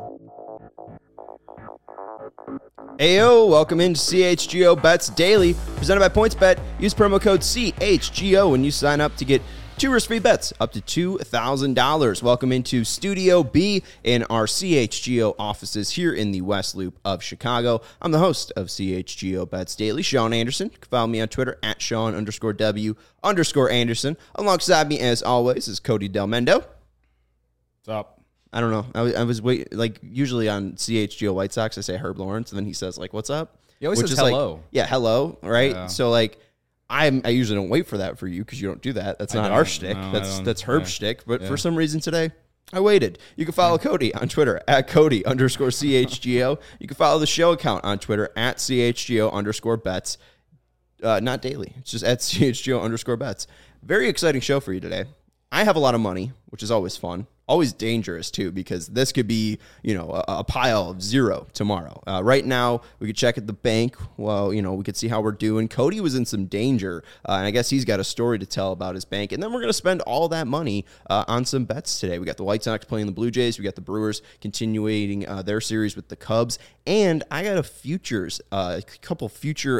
Ayo, welcome into CHGO Bets Daily, presented by PointsBet. Use promo code CHGO when you sign up to get 2 risk-free bets up to $2,000. Welcome into Studio B in our CHGO offices here in the West Loop of Chicago. I'm the host of CHGO Bets Daily, Sean Anderson. You can follow me on Twitter at Sean_W_Anderson. Alongside me, as always, is Cody Del Mendo. What's up? I don't know. I was waiting, like, usually on CHGO White Sox, I say Herb Lawrence, and then he says, like, what's up? He always says hello. Like, yeah, hello, right? Yeah. So, like, I usually don't wait for that for you because you don't do that. That's not our shtick. No, that's Herb's shtick. But for some reason today, I waited. You can follow Cody on Twitter at Cody_CHGO. You can follow the show account on Twitter at CHGO_bets. Not daily. It's just at CHGO_bets. Very exciting show for you today. I have a lot of money, which is always fun. Always dangerous, too, because this could be, a pile of zero tomorrow. Right now, we could check at the bank. Well, we could see how we're doing. Cody was in some danger, and I guess he's got a story to tell about his bank. And then we're going to spend all that money on some bets today. We got the White Sox playing the Blue Jays. We got the Brewers continuing their series with the Cubs. And I got a couple future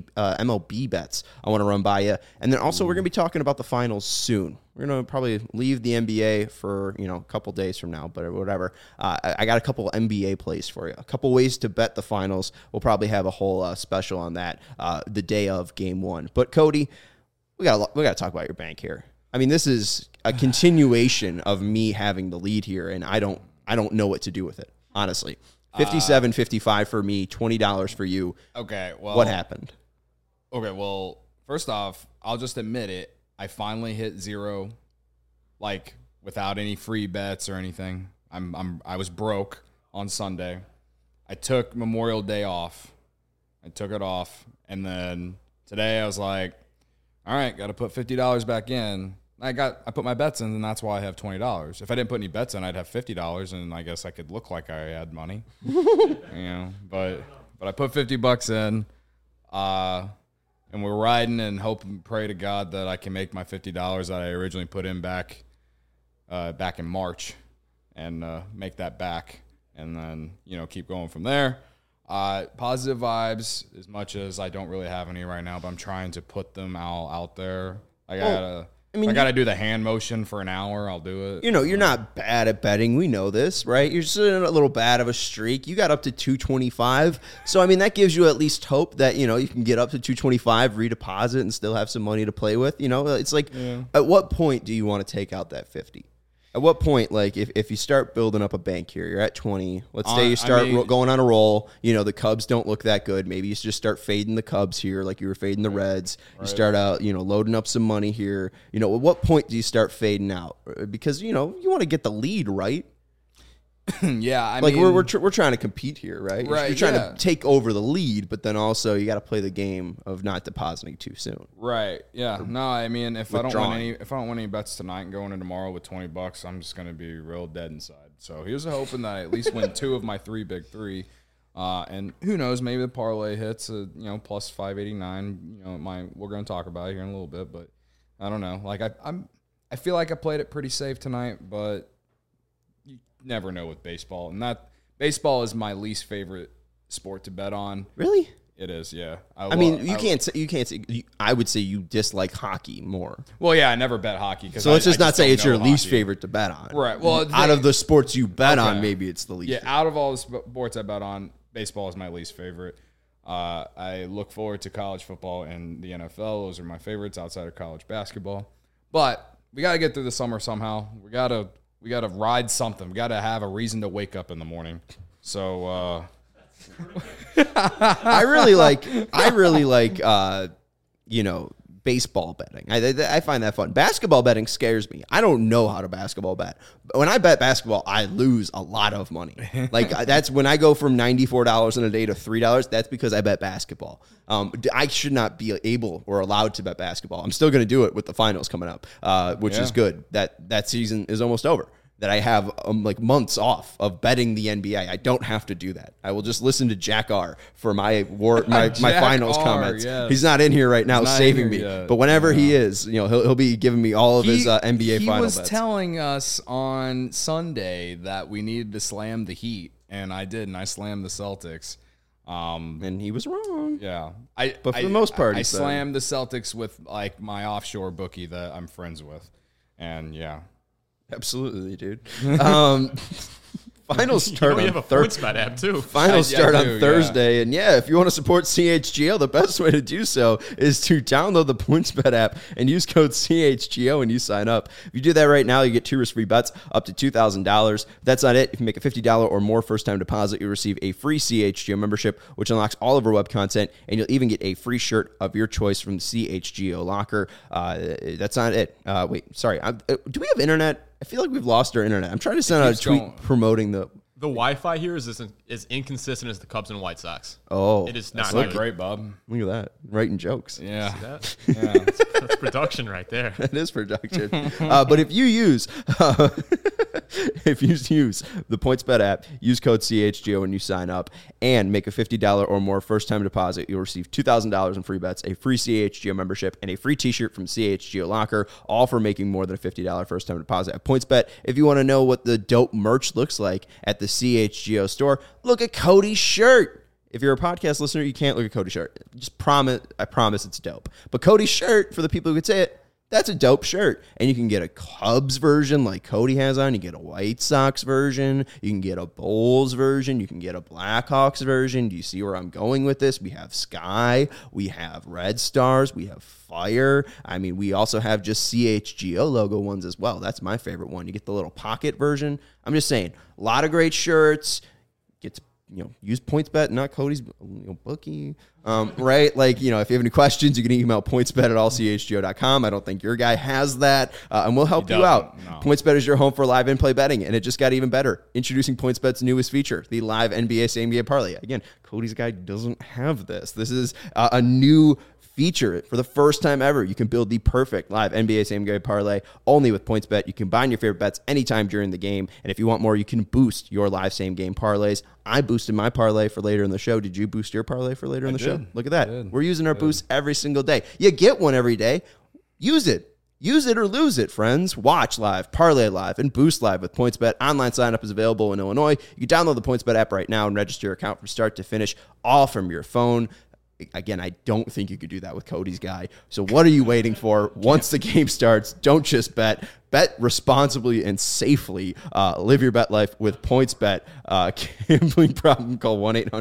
MLB bets I want to run by you. And then also we're going to be talking about the finals soon. We're going to probably leave the NBA for, a couple days from now, but whatever. I got a couple NBA plays for you. A couple ways to bet the finals. We'll probably have a whole special on that the day of Game 1. But, Cody, we got to talk about your bank here. I mean, this is a continuation of me having the lead here, and I don't know what to do with it, honestly. 57.55 for me, $20 for you. Okay, well. What happened? Okay, well, first off, I'll just admit it. I finally hit zero, like, without any free bets or anything. I was broke on Sunday. I took Memorial Day off. I took it off, and then today I was like, all right, got to put $50 back in. I put my bets in, and that's why I have $20. If I didn't put any bets in, I'd have $50, and I guess I could look like I had money. But I put $50 in. And we're riding and hope and pray to God that I can make my $50 that I originally put in back in March and make that back and then, keep going from there. Positive vibes, as much as I don't really have any right now, but I'm trying to put them all out there. I got to do the hand motion for an hour. I'll do it. You're not bad at betting. We know this, right? You're just in a little bad of a streak. You got up to 225. So, I mean, that gives you at least hope that, you can get up to 225, redeposit, and still have some money to play with. It's like, At what point do you want to take out that 50? At what point, like, if you start building up a bank here, you're at 20. Let's say you start going on a roll. The Cubs don't look that good. Maybe you just start fading the Cubs here like you were fading the Reds. Right. You start out, loading up some money here. At what point do you start fading out? Because, you want to get the lead, right? Yeah, I mean, we're trying to compete here, right? Right. You're trying to take over the lead, but then also you got to play the game of not depositing too soon. Right. Yeah. No, I mean, if I don't win any bets tonight and going in tomorrow with $20, I'm just gonna be real dead inside. So here's hoping that I at least win 2 of my 3 big 3. And who knows? Maybe the parlay hits, plus 589. We're gonna talk about it here in a little bit, but I don't know. Like I feel like I played it pretty safe tonight, but you never know with baseball. And baseball is my least favorite sport to bet on. Really? It is, yeah. You can't say. I would say you dislike hockey more. Well, yeah, I never bet hockey. So let's just not say it's your least favorite to bet on. Right. Well, out of the sports you bet on, maybe it's the least. Yeah, out of all the sports I bet on, baseball is my least favorite. I look forward to college football and the NFL. Those are my favorites outside of college basketball. But we got to get through the summer somehow. We got to ride something. We got to have a reason to wake up in the morning. So I really like baseball betting. I find that fun. Basketball betting scares me. I don't know how to basketball bet. But when I bet basketball, I lose a lot of money. Like that's when I go from $94 in a day to $3. That's because I bet basketball. I should not be able or allowed to bet basketball. I'm still going to do it with the finals coming up, which is good. That season is almost over. that I have like months off of betting the NBA. I don't have to do that. I will just listen to Jack R for my finals comments. Yes. He's not in here right now saving me, but whenever he is, he'll be giving me all of his NBA final bets. He was telling us on Sunday that we needed to slam the Heat, and I did, and I slammed the Celtics. And he was wrong. Yeah, but for the most part, I slammed the Celtics with like my offshore bookie that I'm friends with, and yeah. Absolutely, dude. Finals start on PointsBet app too. Finals start on Thursday, and if you want to support CHGO, the best way to do so is to download the PointsBet app and use code CHGO when you sign up. If you do that right now, you get 2 risk-free bets up to $2,000. That's not it. If you make a $50 or more first-time deposit, you'll receive a free CHGO membership, which unlocks all of our web content, and you'll even get a free shirt of your choice from the CHGO locker. That's not it. Wait, sorry. Do we have internet? I feel like we've lost our internet. I'm trying to send out a tweet promoting the Wi-Fi here is as inconsistent as the Cubs and White Sox. Oh, it is not great, Bob. Look at that, writing jokes. Yeah, see that? Yeah, that's production right there. That is production. But if you use the PointsBet app, use code CHGO when you sign up, and make a $50 or more first-time deposit, you'll receive $2,000 in free bets, a free CHGO membership, and a free T-shirt from CHGO Locker, all for making more than a $50 first-time deposit at PointsBet. If you want to know what the dope merch looks like at the CHGO store, look at Cody's shirt. If you're a podcast listener, you can't look at Cody's shirt. I promise it's dope. But Cody's shirt, for the people who could say it, that's a dope shirt. And you can get a Cubs version like Cody has on. You get a White Sox version. You can get a Bulls version. You can get a Blackhawks version. Do you see where I'm going with this? We have Sky. We have Red Stars. We have Fire. I mean, we also have just CHGO logo ones as well. That's my favorite one. You get the little pocket version. I'm just saying, a lot of great shirts. Get to use PointsBet, not Cody's bookie, right? Like, if you have any questions, you can email pointsbet@allchgo.com. I don't think your guy has that, and we'll help you out. No. PointsBet is your home for live in-play betting, and it just got even better. Introducing PointsBet's newest feature, the live NBA same-game parlay. Again, Cody's guy doesn't have this. This is a new feature. For the first time ever, you can build the perfect live NBA same-game parlay only with PointsBet. You combine your favorite bets anytime during the game, and if you want more, you can boost your live same-game parlays. I boosted my parlay for later in the show. Did you boost your parlay for later in the show? Look at that. We're using our boosts every single day. You get one every day. Use it. Use it or lose it, friends. Watch live, parlay live, and boost live with PointsBet. Online sign-up is available in Illinois. You can download the PointsBet app right now and register your account from start to finish, all from your phone. Again, I don't think you could do that with Cody's guy. So what are you waiting for? Once the game starts, don't just bet. Bet responsibly and safely. Live your bet life with PointsBet. Gambling problem, call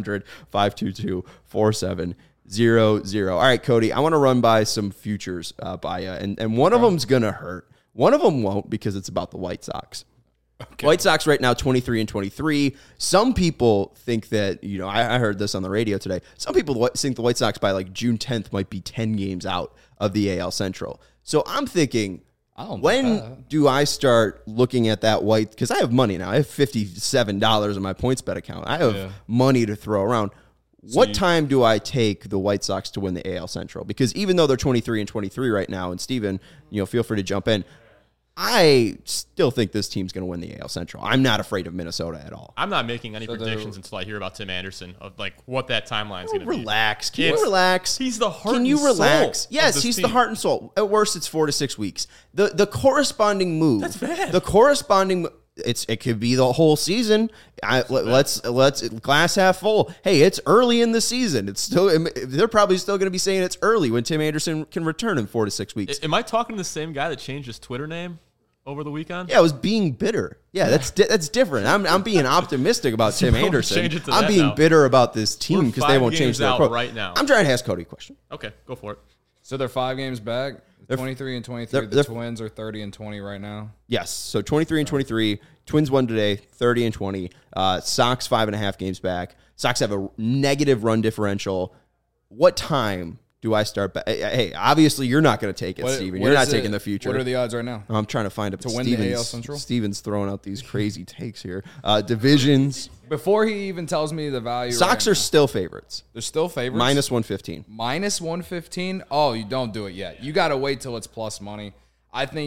1-800-522-4700. All right, Cody, I want to run by some futures by you. And one of them's going to hurt. One of them won't because it's about the White Sox. Okay. White Sox right now 23-23. Some people think that, I heard this on the radio today. Some people think the White Sox by like June 10th might be 10 games out of the AL Central. So I'm thinking, when do I start looking at that White? Because I have money now. I have $57 in my PointsBet account. I have money to throw around. What time do I take the White Sox to win the AL Central? Because even though they're 23-23 right now, and Steven, feel free to jump in. I still think this team's going to win the AL Central. I'm not afraid of Minnesota at all. I'm not making any predictions until I hear about Tim Anderson of like what that timeline's going to be. Relax. Can you relax? He's the heart and Can soul. you relax? Yes, he's team. The heart and soul. At worst, it's 4 to 6 weeks. The corresponding move. That's bad. The corresponding it could be the whole season. Let's glass half full. Hey, it's early in the season. It's still they're probably still going to be saying it's early when Tim Anderson can return in 4 to 6 weeks. Am I talking to the same guy that changed his Twitter name over the weekend? Yeah, I was being bitter. Yeah, that's different. I'm being optimistic about Tim Anderson. I'm being bitter about this team because they won't change their approach right now. I'm trying to ask Cody a question. Okay, go for it. So they're 5 games back. 23-23. The Twins are 30-20 right now. Yes. So 23-23. Twins won today. 30-20. Sox 5.5 games back. Sox have a negative run differential. What time do I start? Hey, obviously you're not going to take it, Steven. You're not taking the future. What are the odds right now? I'm trying to find it. To win the AL Central? Steven's throwing out these crazy takes here. Divisions. Before he even tells me the value. Sox are still favorites. They're still favorites? Minus 115. Minus 115? Oh, you don't do it yet. You got to wait till it's plus money. I think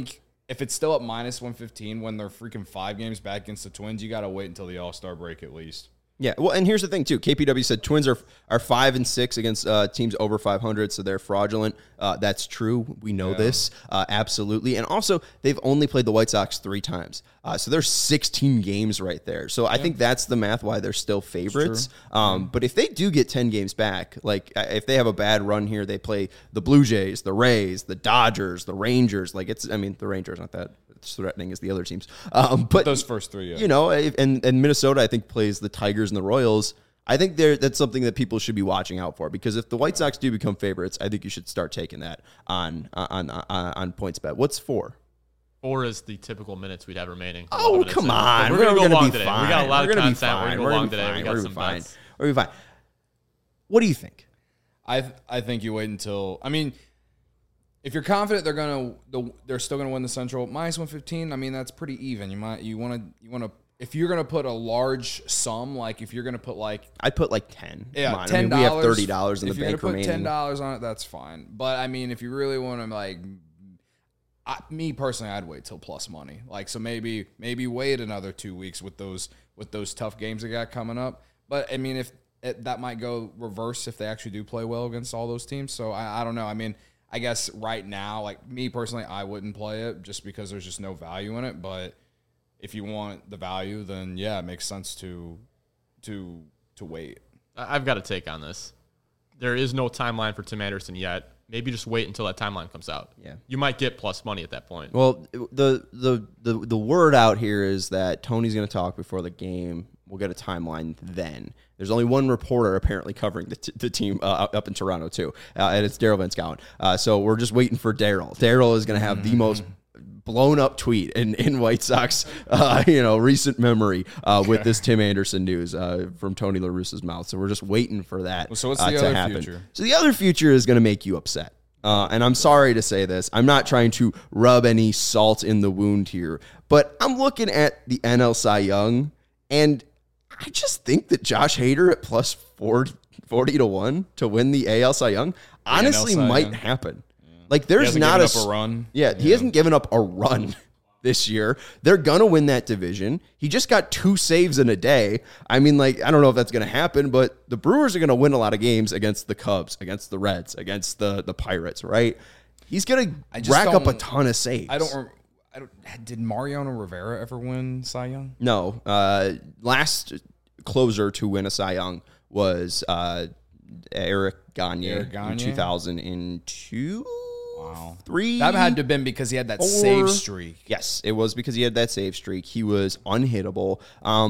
if it's still at minus 115 when they're freaking 5 games back against the Twins, you got to wait until the All-Star break at least. Yeah, well, and here's the thing, too. KPW said Twins are 5-6 against teams over 500, so they're fraudulent. That's true. We know this, absolutely. And also, they've only played the White Sox 3 times. So there's 16 games right there. So I think that's the math why they're still favorites. But if they do get 10 games back, like if they have a bad run here, they play the Blue Jays, the Rays, the Dodgers, the Rangers. The Rangers aren't that threatening as the other teams. But those first 3, you know, and Minnesota, I think, plays the Tigers and the Royals. I think that's something that people should be watching out for, because if the White Sox do become favorites, I think you should start taking that on PointsBet. What's 4? 4 is the typical minutes we'd have remaining. Oh, come on. We're going to go long today. Fine. We got a lot of content. We're going to go long today. We got some bets. We're going to be fine. What do you think? I think you wait until, I mean, if you're confident they're still gonna win the Central, minus 115. I mean, that's pretty even. You want to if you're gonna put a large sum, like if you're gonna put I'd put like 10. Yeah, $10. I mean, we have $30 in the bank remaining. If you're gonna put $10 on it, that's fine. But I mean, if you really want to me personally, I'd wait till plus money. So maybe wait another 2 weeks with those tough games they got coming up. But I mean, that might go reverse if they actually do play well against all those teams. So I don't know. I mean, I guess right now, me personally, I wouldn't play it just because there's just no value in it. But if you want the value, then yeah, it makes sense to wait. I've got a take on this. There is no timeline for Tim Anderson yet. Maybe just wait until that timeline comes out. Yeah, you might get plus money at that point. Well, the word out here is that Tony's going to talk before the game. We'll get a timeline then. There's only one reporter apparently covering the team up in Toronto too, and it's Daryl Van Schouwen. So we're just waiting for Daryl. Daryl is going to have the most blown up tweet in White Sox, recent memory with this Tim Anderson news from Tony La Russa's mouth. So we're just waiting for that so what's the to other happen. Future? So the other future is going to make you upset. And I'm sorry to say this. I'm not trying to rub any salt in the wound here, but I'm looking at the NL Cy Young, and I just think that Josh Hader at plus 40-1 to win the AL Cy Young honestly might happen. Yeah. There's not a run. Yeah, he hasn't given up a run this year. They're going to win that division. He just got 2 saves in a day. I mean, I don't know if that's going to happen, but the Brewers are going to win a lot of games against the Cubs, against the Reds, against the Pirates, right? He's going to rack up a ton of saves. Did Mariano Rivera ever win Cy Young? No. Last closer to win a Cy Young was Eric Gagne in 2002. Wow. 3. That had to have been because he had that 4. save streak. Yes, it was because he had that save streak. He was unhittable.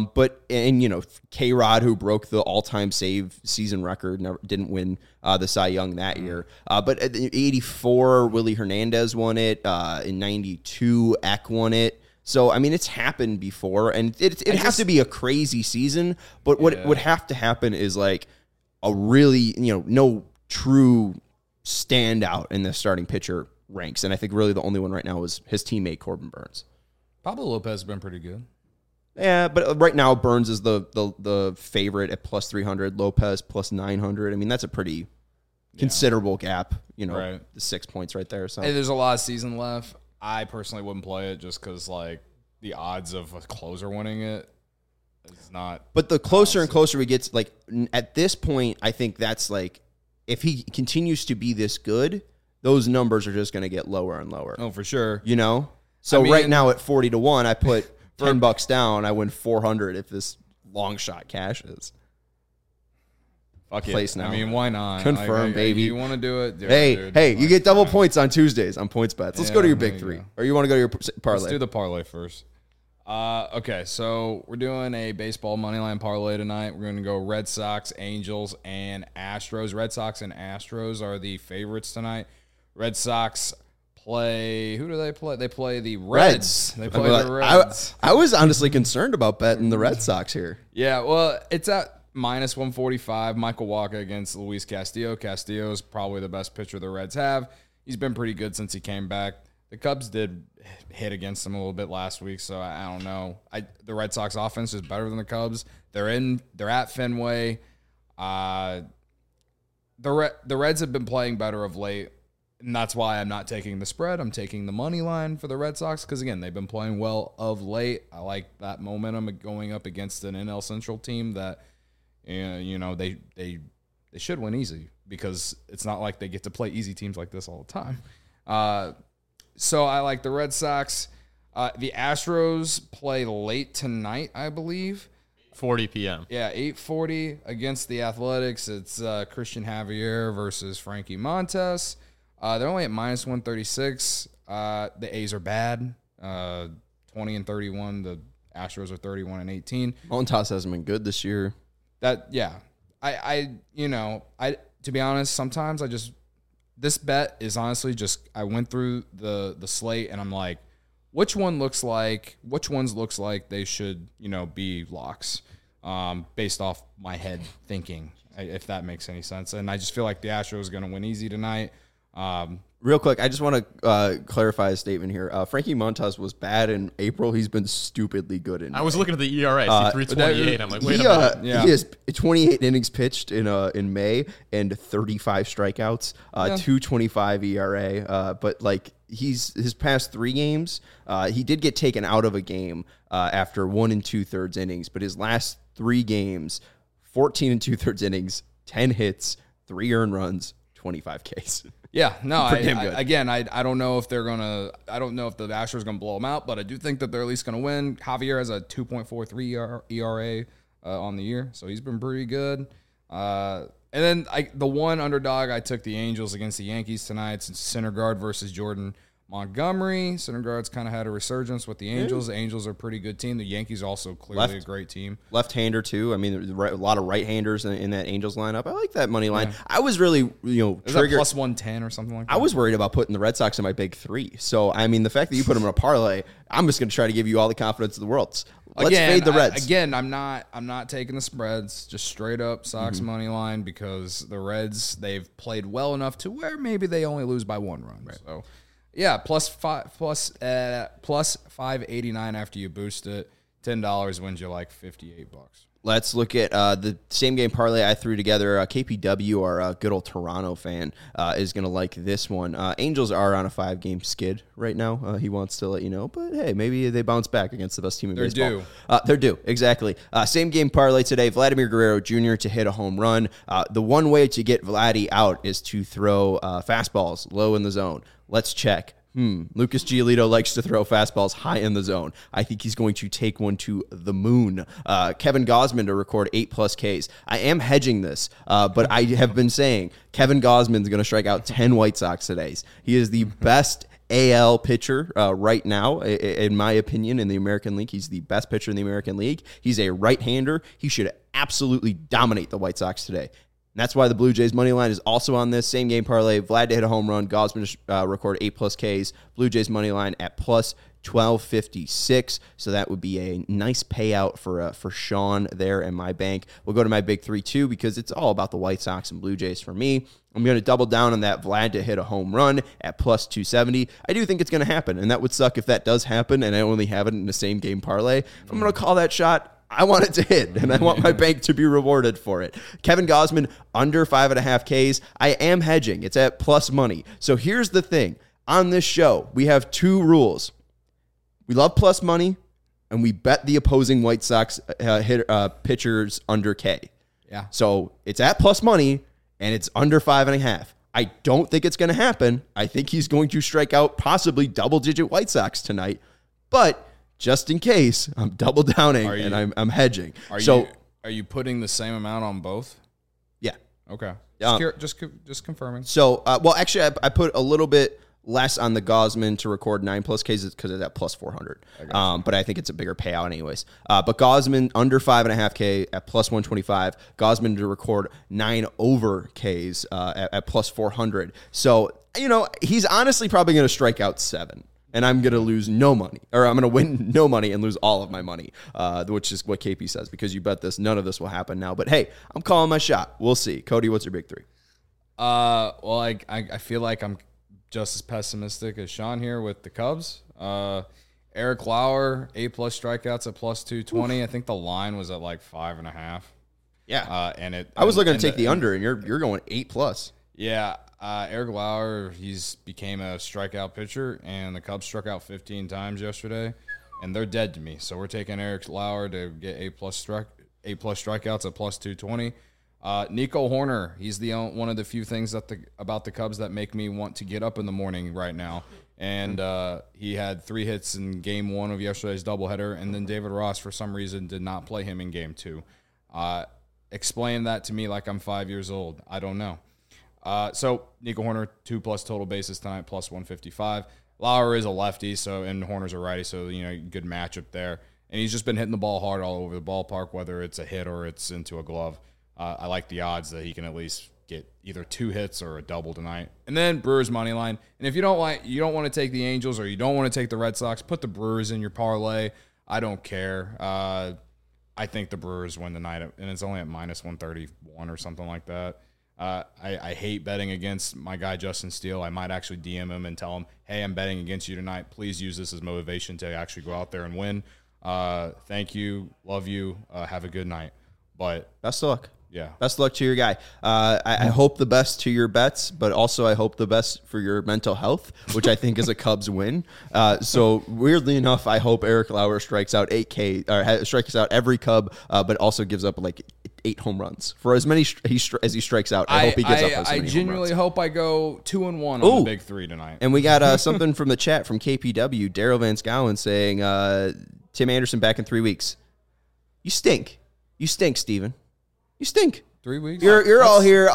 K-Rod, who broke the all-time save season record, didn't win the Cy Young that year. But in 84, Willie Hernandez won it. In 92, Eck won it. So, I mean, it's happened before, and it has to be a crazy season. But what would have to happen is a really, no true standout in the starting pitcher ranks. And I think really the only one right now is his teammate Corbin Burns. Pablo Lopez has been pretty good. Yeah, but right now Burns is the favorite at plus 300, Lopez plus 900. I mean, that's a pretty considerable gap, right. The 6 points right there. So hey, there's a lot of season left. I personally wouldn't play it just because the odds of a closer winning it is not. But the closer and closer we get, at this point, I think that's if he continues to be this good, those numbers are just going to get lower and lower. Oh, for sure. So right now at 40-1, I put $10 down. I win 400 if this long shot cashes. Fuck Place it. now. I mean, why not? Confirm, baby. You want to do it? Hey, you get double points on Tuesdays on PointsBet. Let's go to your big 3. Or you want to go to your parlay? Let's do the parlay first. Okay, so we're doing a baseball moneyline parlay tonight. We're going to go Red Sox, Angels, and Astros. Red Sox and Astros are the favorites tonight. Red Sox play. Who do they play? They play the Reds. They play the Reds. I was honestly concerned about betting the Red Sox here. Yeah, well, it's at minus 145. Michael Wacha against Luis Castillo. Castillo is probably the best pitcher the Reds have. He's been pretty good since he came back. The Cubs did hit against them a little bit last week, so I don't know. The Red Sox offense is better than the Cubs. They're at Fenway. The Reds have been playing better of late. And that's why I'm not taking the spread. I'm taking the money line for the Red Sox because, again, they've been playing well of late. I like that momentum going up against an NL Central team that, they should win easy because it's not like they get to play easy teams like this all the time. So I like the Red Sox. The Astros play late tonight, I believe. 40 p.m. Yeah, 8:40 against the Athletics. It's Christian Javier versus Frankie Montas. They're only at minus 136. The A's are bad, 20-31. The Astros are 31-18. Montas hasn't been good this year. To be honest, sometimes this bet is honestly just I went through the slate and I'm like, which ones looks like they should be locks, based off my head thinking, if that makes any sense. And I just feel like the Astros are going to win easy tonight. Real quick, I just want to clarify a statement here. Frankie Montas was bad in April. He's been stupidly good in May. I was looking at the ERA, 3.28. I'm like, wait a minute. He has 28 innings pitched in May and 35 strikeouts, 2.25 ERA. But like his past 3 games, he did get taken out of a game after 1 2/3 innings. But his last 3 games, 14 2/3 innings, 10 hits, 3 earned runs, 25 Ks. Yeah, no, I don't know if I don't know if the Astros are going to blow them out, but I do think that they're at least going to win. Javier has a 2.43 ERA on the year, so he's been pretty good. And then the one underdog, I took the Angels against the Yankees tonight. It's Syndergaard versus Jordan Montgomery. Syndergaard's kind of had a resurgence with the Angels. The Angels are a pretty good team. The Yankees also clearly a great team. Left-hander too. I mean, a lot of right-handers in that Angels lineup. I like that money line. Yeah. I was really, triggered. Plus 110 or something like that. I was worried about putting the Red Sox in my big 3. So, I mean, the fact that you put them in a parlay, I'm just going to try to give you all the confidence in the world. Let's fade the Reds. I'm not taking the spreads, just straight up Sox money line because the Reds, they've played well enough to where maybe they only lose by 1 run. Right. So, yeah, plus 589 after you boost it. $10 wins you like $58. Let's look at the same game parlay I threw together. KPW, our good old Toronto fan, is going to like this one. Angels are on a 5-game skid right now. He wants to let you know, but hey, maybe they bounce back against the best team in baseball. They're due, exactly. Same game parlay today. Vladimir Guerrero Jr. to hit a home run. The one way to get Vladdy out is to throw fastballs low in the zone. Let's check. Lucas Giolito likes to throw fastballs high in the zone. I think he's going to take one to the moon. Kevin Gausman to record 8+ Ks. I am hedging this, but I have been saying Kevin Gausman's going to strike out 10 White Sox today. He is the best AL pitcher right now, in my opinion, in the American League. He's the best pitcher in the American League. He's a right-hander. He should absolutely dominate the White Sox today. And that's why the Blue Jays money line is also on this same game parlay. Vlad to hit a home run. Gausman to record 8+ Ks. Blue Jays money line at plus 1256. So that would be a nice payout for Sean there in my bank. We'll go to my big 3 too because it's all about the White Sox and Blue Jays for me. I'm going to double down on that Vlad to hit a home run at plus 270. I do think it's going to happen, and that would suck if that does happen and I only have it in the same game parlay. If I'm going to call that shot, I want it to hit, and I want my bank to be rewarded for it. Kevin Gausman, under 5.5 Ks. I am hedging. It's at plus money. So here's the thing. On this show, we have 2 rules. We love plus money, and we bet the opposing White Sox pitchers under K. Yeah. So it's at plus money, and it's under 5.5. I don't think it's going to happen. I think he's going to strike out possibly double-digit White Sox tonight, but just in case, I'm double downing and I'm hedging. Are you putting the same amount on both? Yeah. Okay. Just confirming. So, actually, I put a little bit less on the Gausman to record 9+ Ks because of that plus 400. But I think it's a bigger payout anyways. But Gausman under 5.5 K at plus 125. Gausman to record 9 over Ks at plus 400. So, he's honestly probably going to strike out 7. And I'm going to lose no money, or I'm going to win no money and lose all of my money, which is what KP says, because you bet this, none of this will happen now. But hey, I'm calling my shot. We'll see. Cody, what's your big 3? Well, I feel like I'm just as pessimistic as Sean here with the Cubs. Eric Lauer, 8+ strikeouts at plus 220. I think the line was at like 5.5. Yeah. I was looking to take the under, and you're going 8+. Yeah, Eric Lauer, he's became a strikeout pitcher, and the Cubs struck out 15 times yesterday, and they're dead to me. So we're taking Eric Lauer to get A+ strikeouts at plus 220. Nico Horner, he's the one of the few things about the Cubs that make me want to get up in the morning right now. And he had 3 hits in game 1 of yesterday's doubleheader, and then David Ross, for some reason, did not play him in game 2. Explain that to me like I'm 5 years old. I don't know. So Nico Horner, 2+ total bases tonight, plus 155. Lauer is a lefty, and Horner's a righty, so good matchup there. And he's just been hitting the ball hard all over the ballpark, whether it's a hit or it's into a glove. I like the odds that he can at least get either 2 hits or a double tonight. And then Brewers money line. And if you don't want to take the Angels or you don't want to take the Red Sox, put the Brewers in your parlay. I don't care. I think the Brewers win tonight, and it's only at minus 131 or something like that. I hate betting against my guy Justin Steele. I might actually DM him and tell him, hey, I'm betting against you tonight. Please use this as motivation to actually go out there and win. Thank you. Love you. Have a good night. But best of luck. Yeah. Best of luck to your guy. I hope the best to your bets, but also I hope the best for your mental health, which I think is a Cubs win. So weirdly enough, I hope Eric Lauer strikes out 8K or strikes out every Cub, but also gives up like 8 home runs for as many as he strikes out. I hope he gives up as many I genuinely hope I go 2-1 on the big 3 tonight. And we got something from the chat from KPW, Daryl Van Scowen saying, Tim Anderson back in 3 weeks. You stink. You stink, Steven. You stink. 3 weeks? You're all here.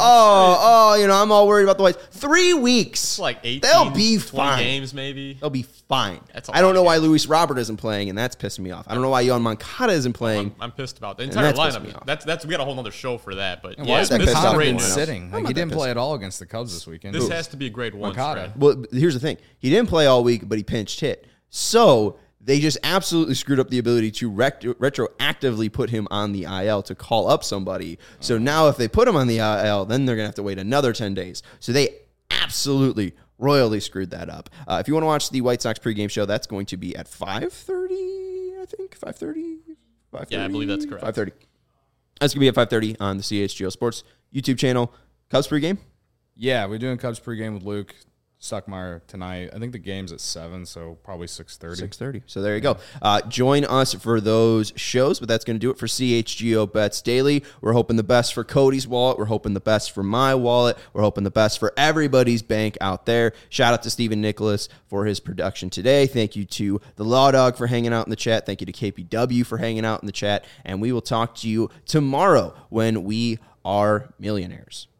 I'm all worried about the Whites. 3 weeks. It's like 18, they'll be 20 fine. games maybe. They'll be fine. That's I don't know why Luis Robert isn't playing, and that's pissing me off. I don't know why Yohan Moncada isn't playing. I'm pissed about the entire that's pissing me lineup. off. That's we got a whole other show for that. But Why is that this is pissed off? great been news. sitting? Like, he didn't play at all against the Cubs this weekend. This has to be a grade 1 Moncada. stretch. Well, here's the thing. He didn't play all week, but he pinched hit. So they just absolutely screwed up the ability to retroactively put him on the IL to call up somebody. So now if they put him on the IL, then they're going to have to wait another 10 days. So they absolutely royally screwed that up. If you want to watch the White Sox pregame show, that's going to be at 5:30, I think. 5:30? Yeah, I believe that's correct. 5:30. That's going to be at 5:30 on the CHGO Sports YouTube channel. Cubs pregame? Yeah, we're doing Cubs pregame with Luke Stuckmeyer tonight. I think the game's at 7, so probably 6:30. 6:30. So there you go. Join us for those shows, but that's going to do it for CHGO Bets Daily. We're hoping the best for Cody's wallet. We're hoping the best for my wallet. We're hoping the best for everybody's bank out there. Shout out to Stephen Nicholas for his production today. Thank you to the Law Dog for hanging out in the chat. Thank you to KPW for hanging out in the chat. And we will talk to you tomorrow when we are millionaires.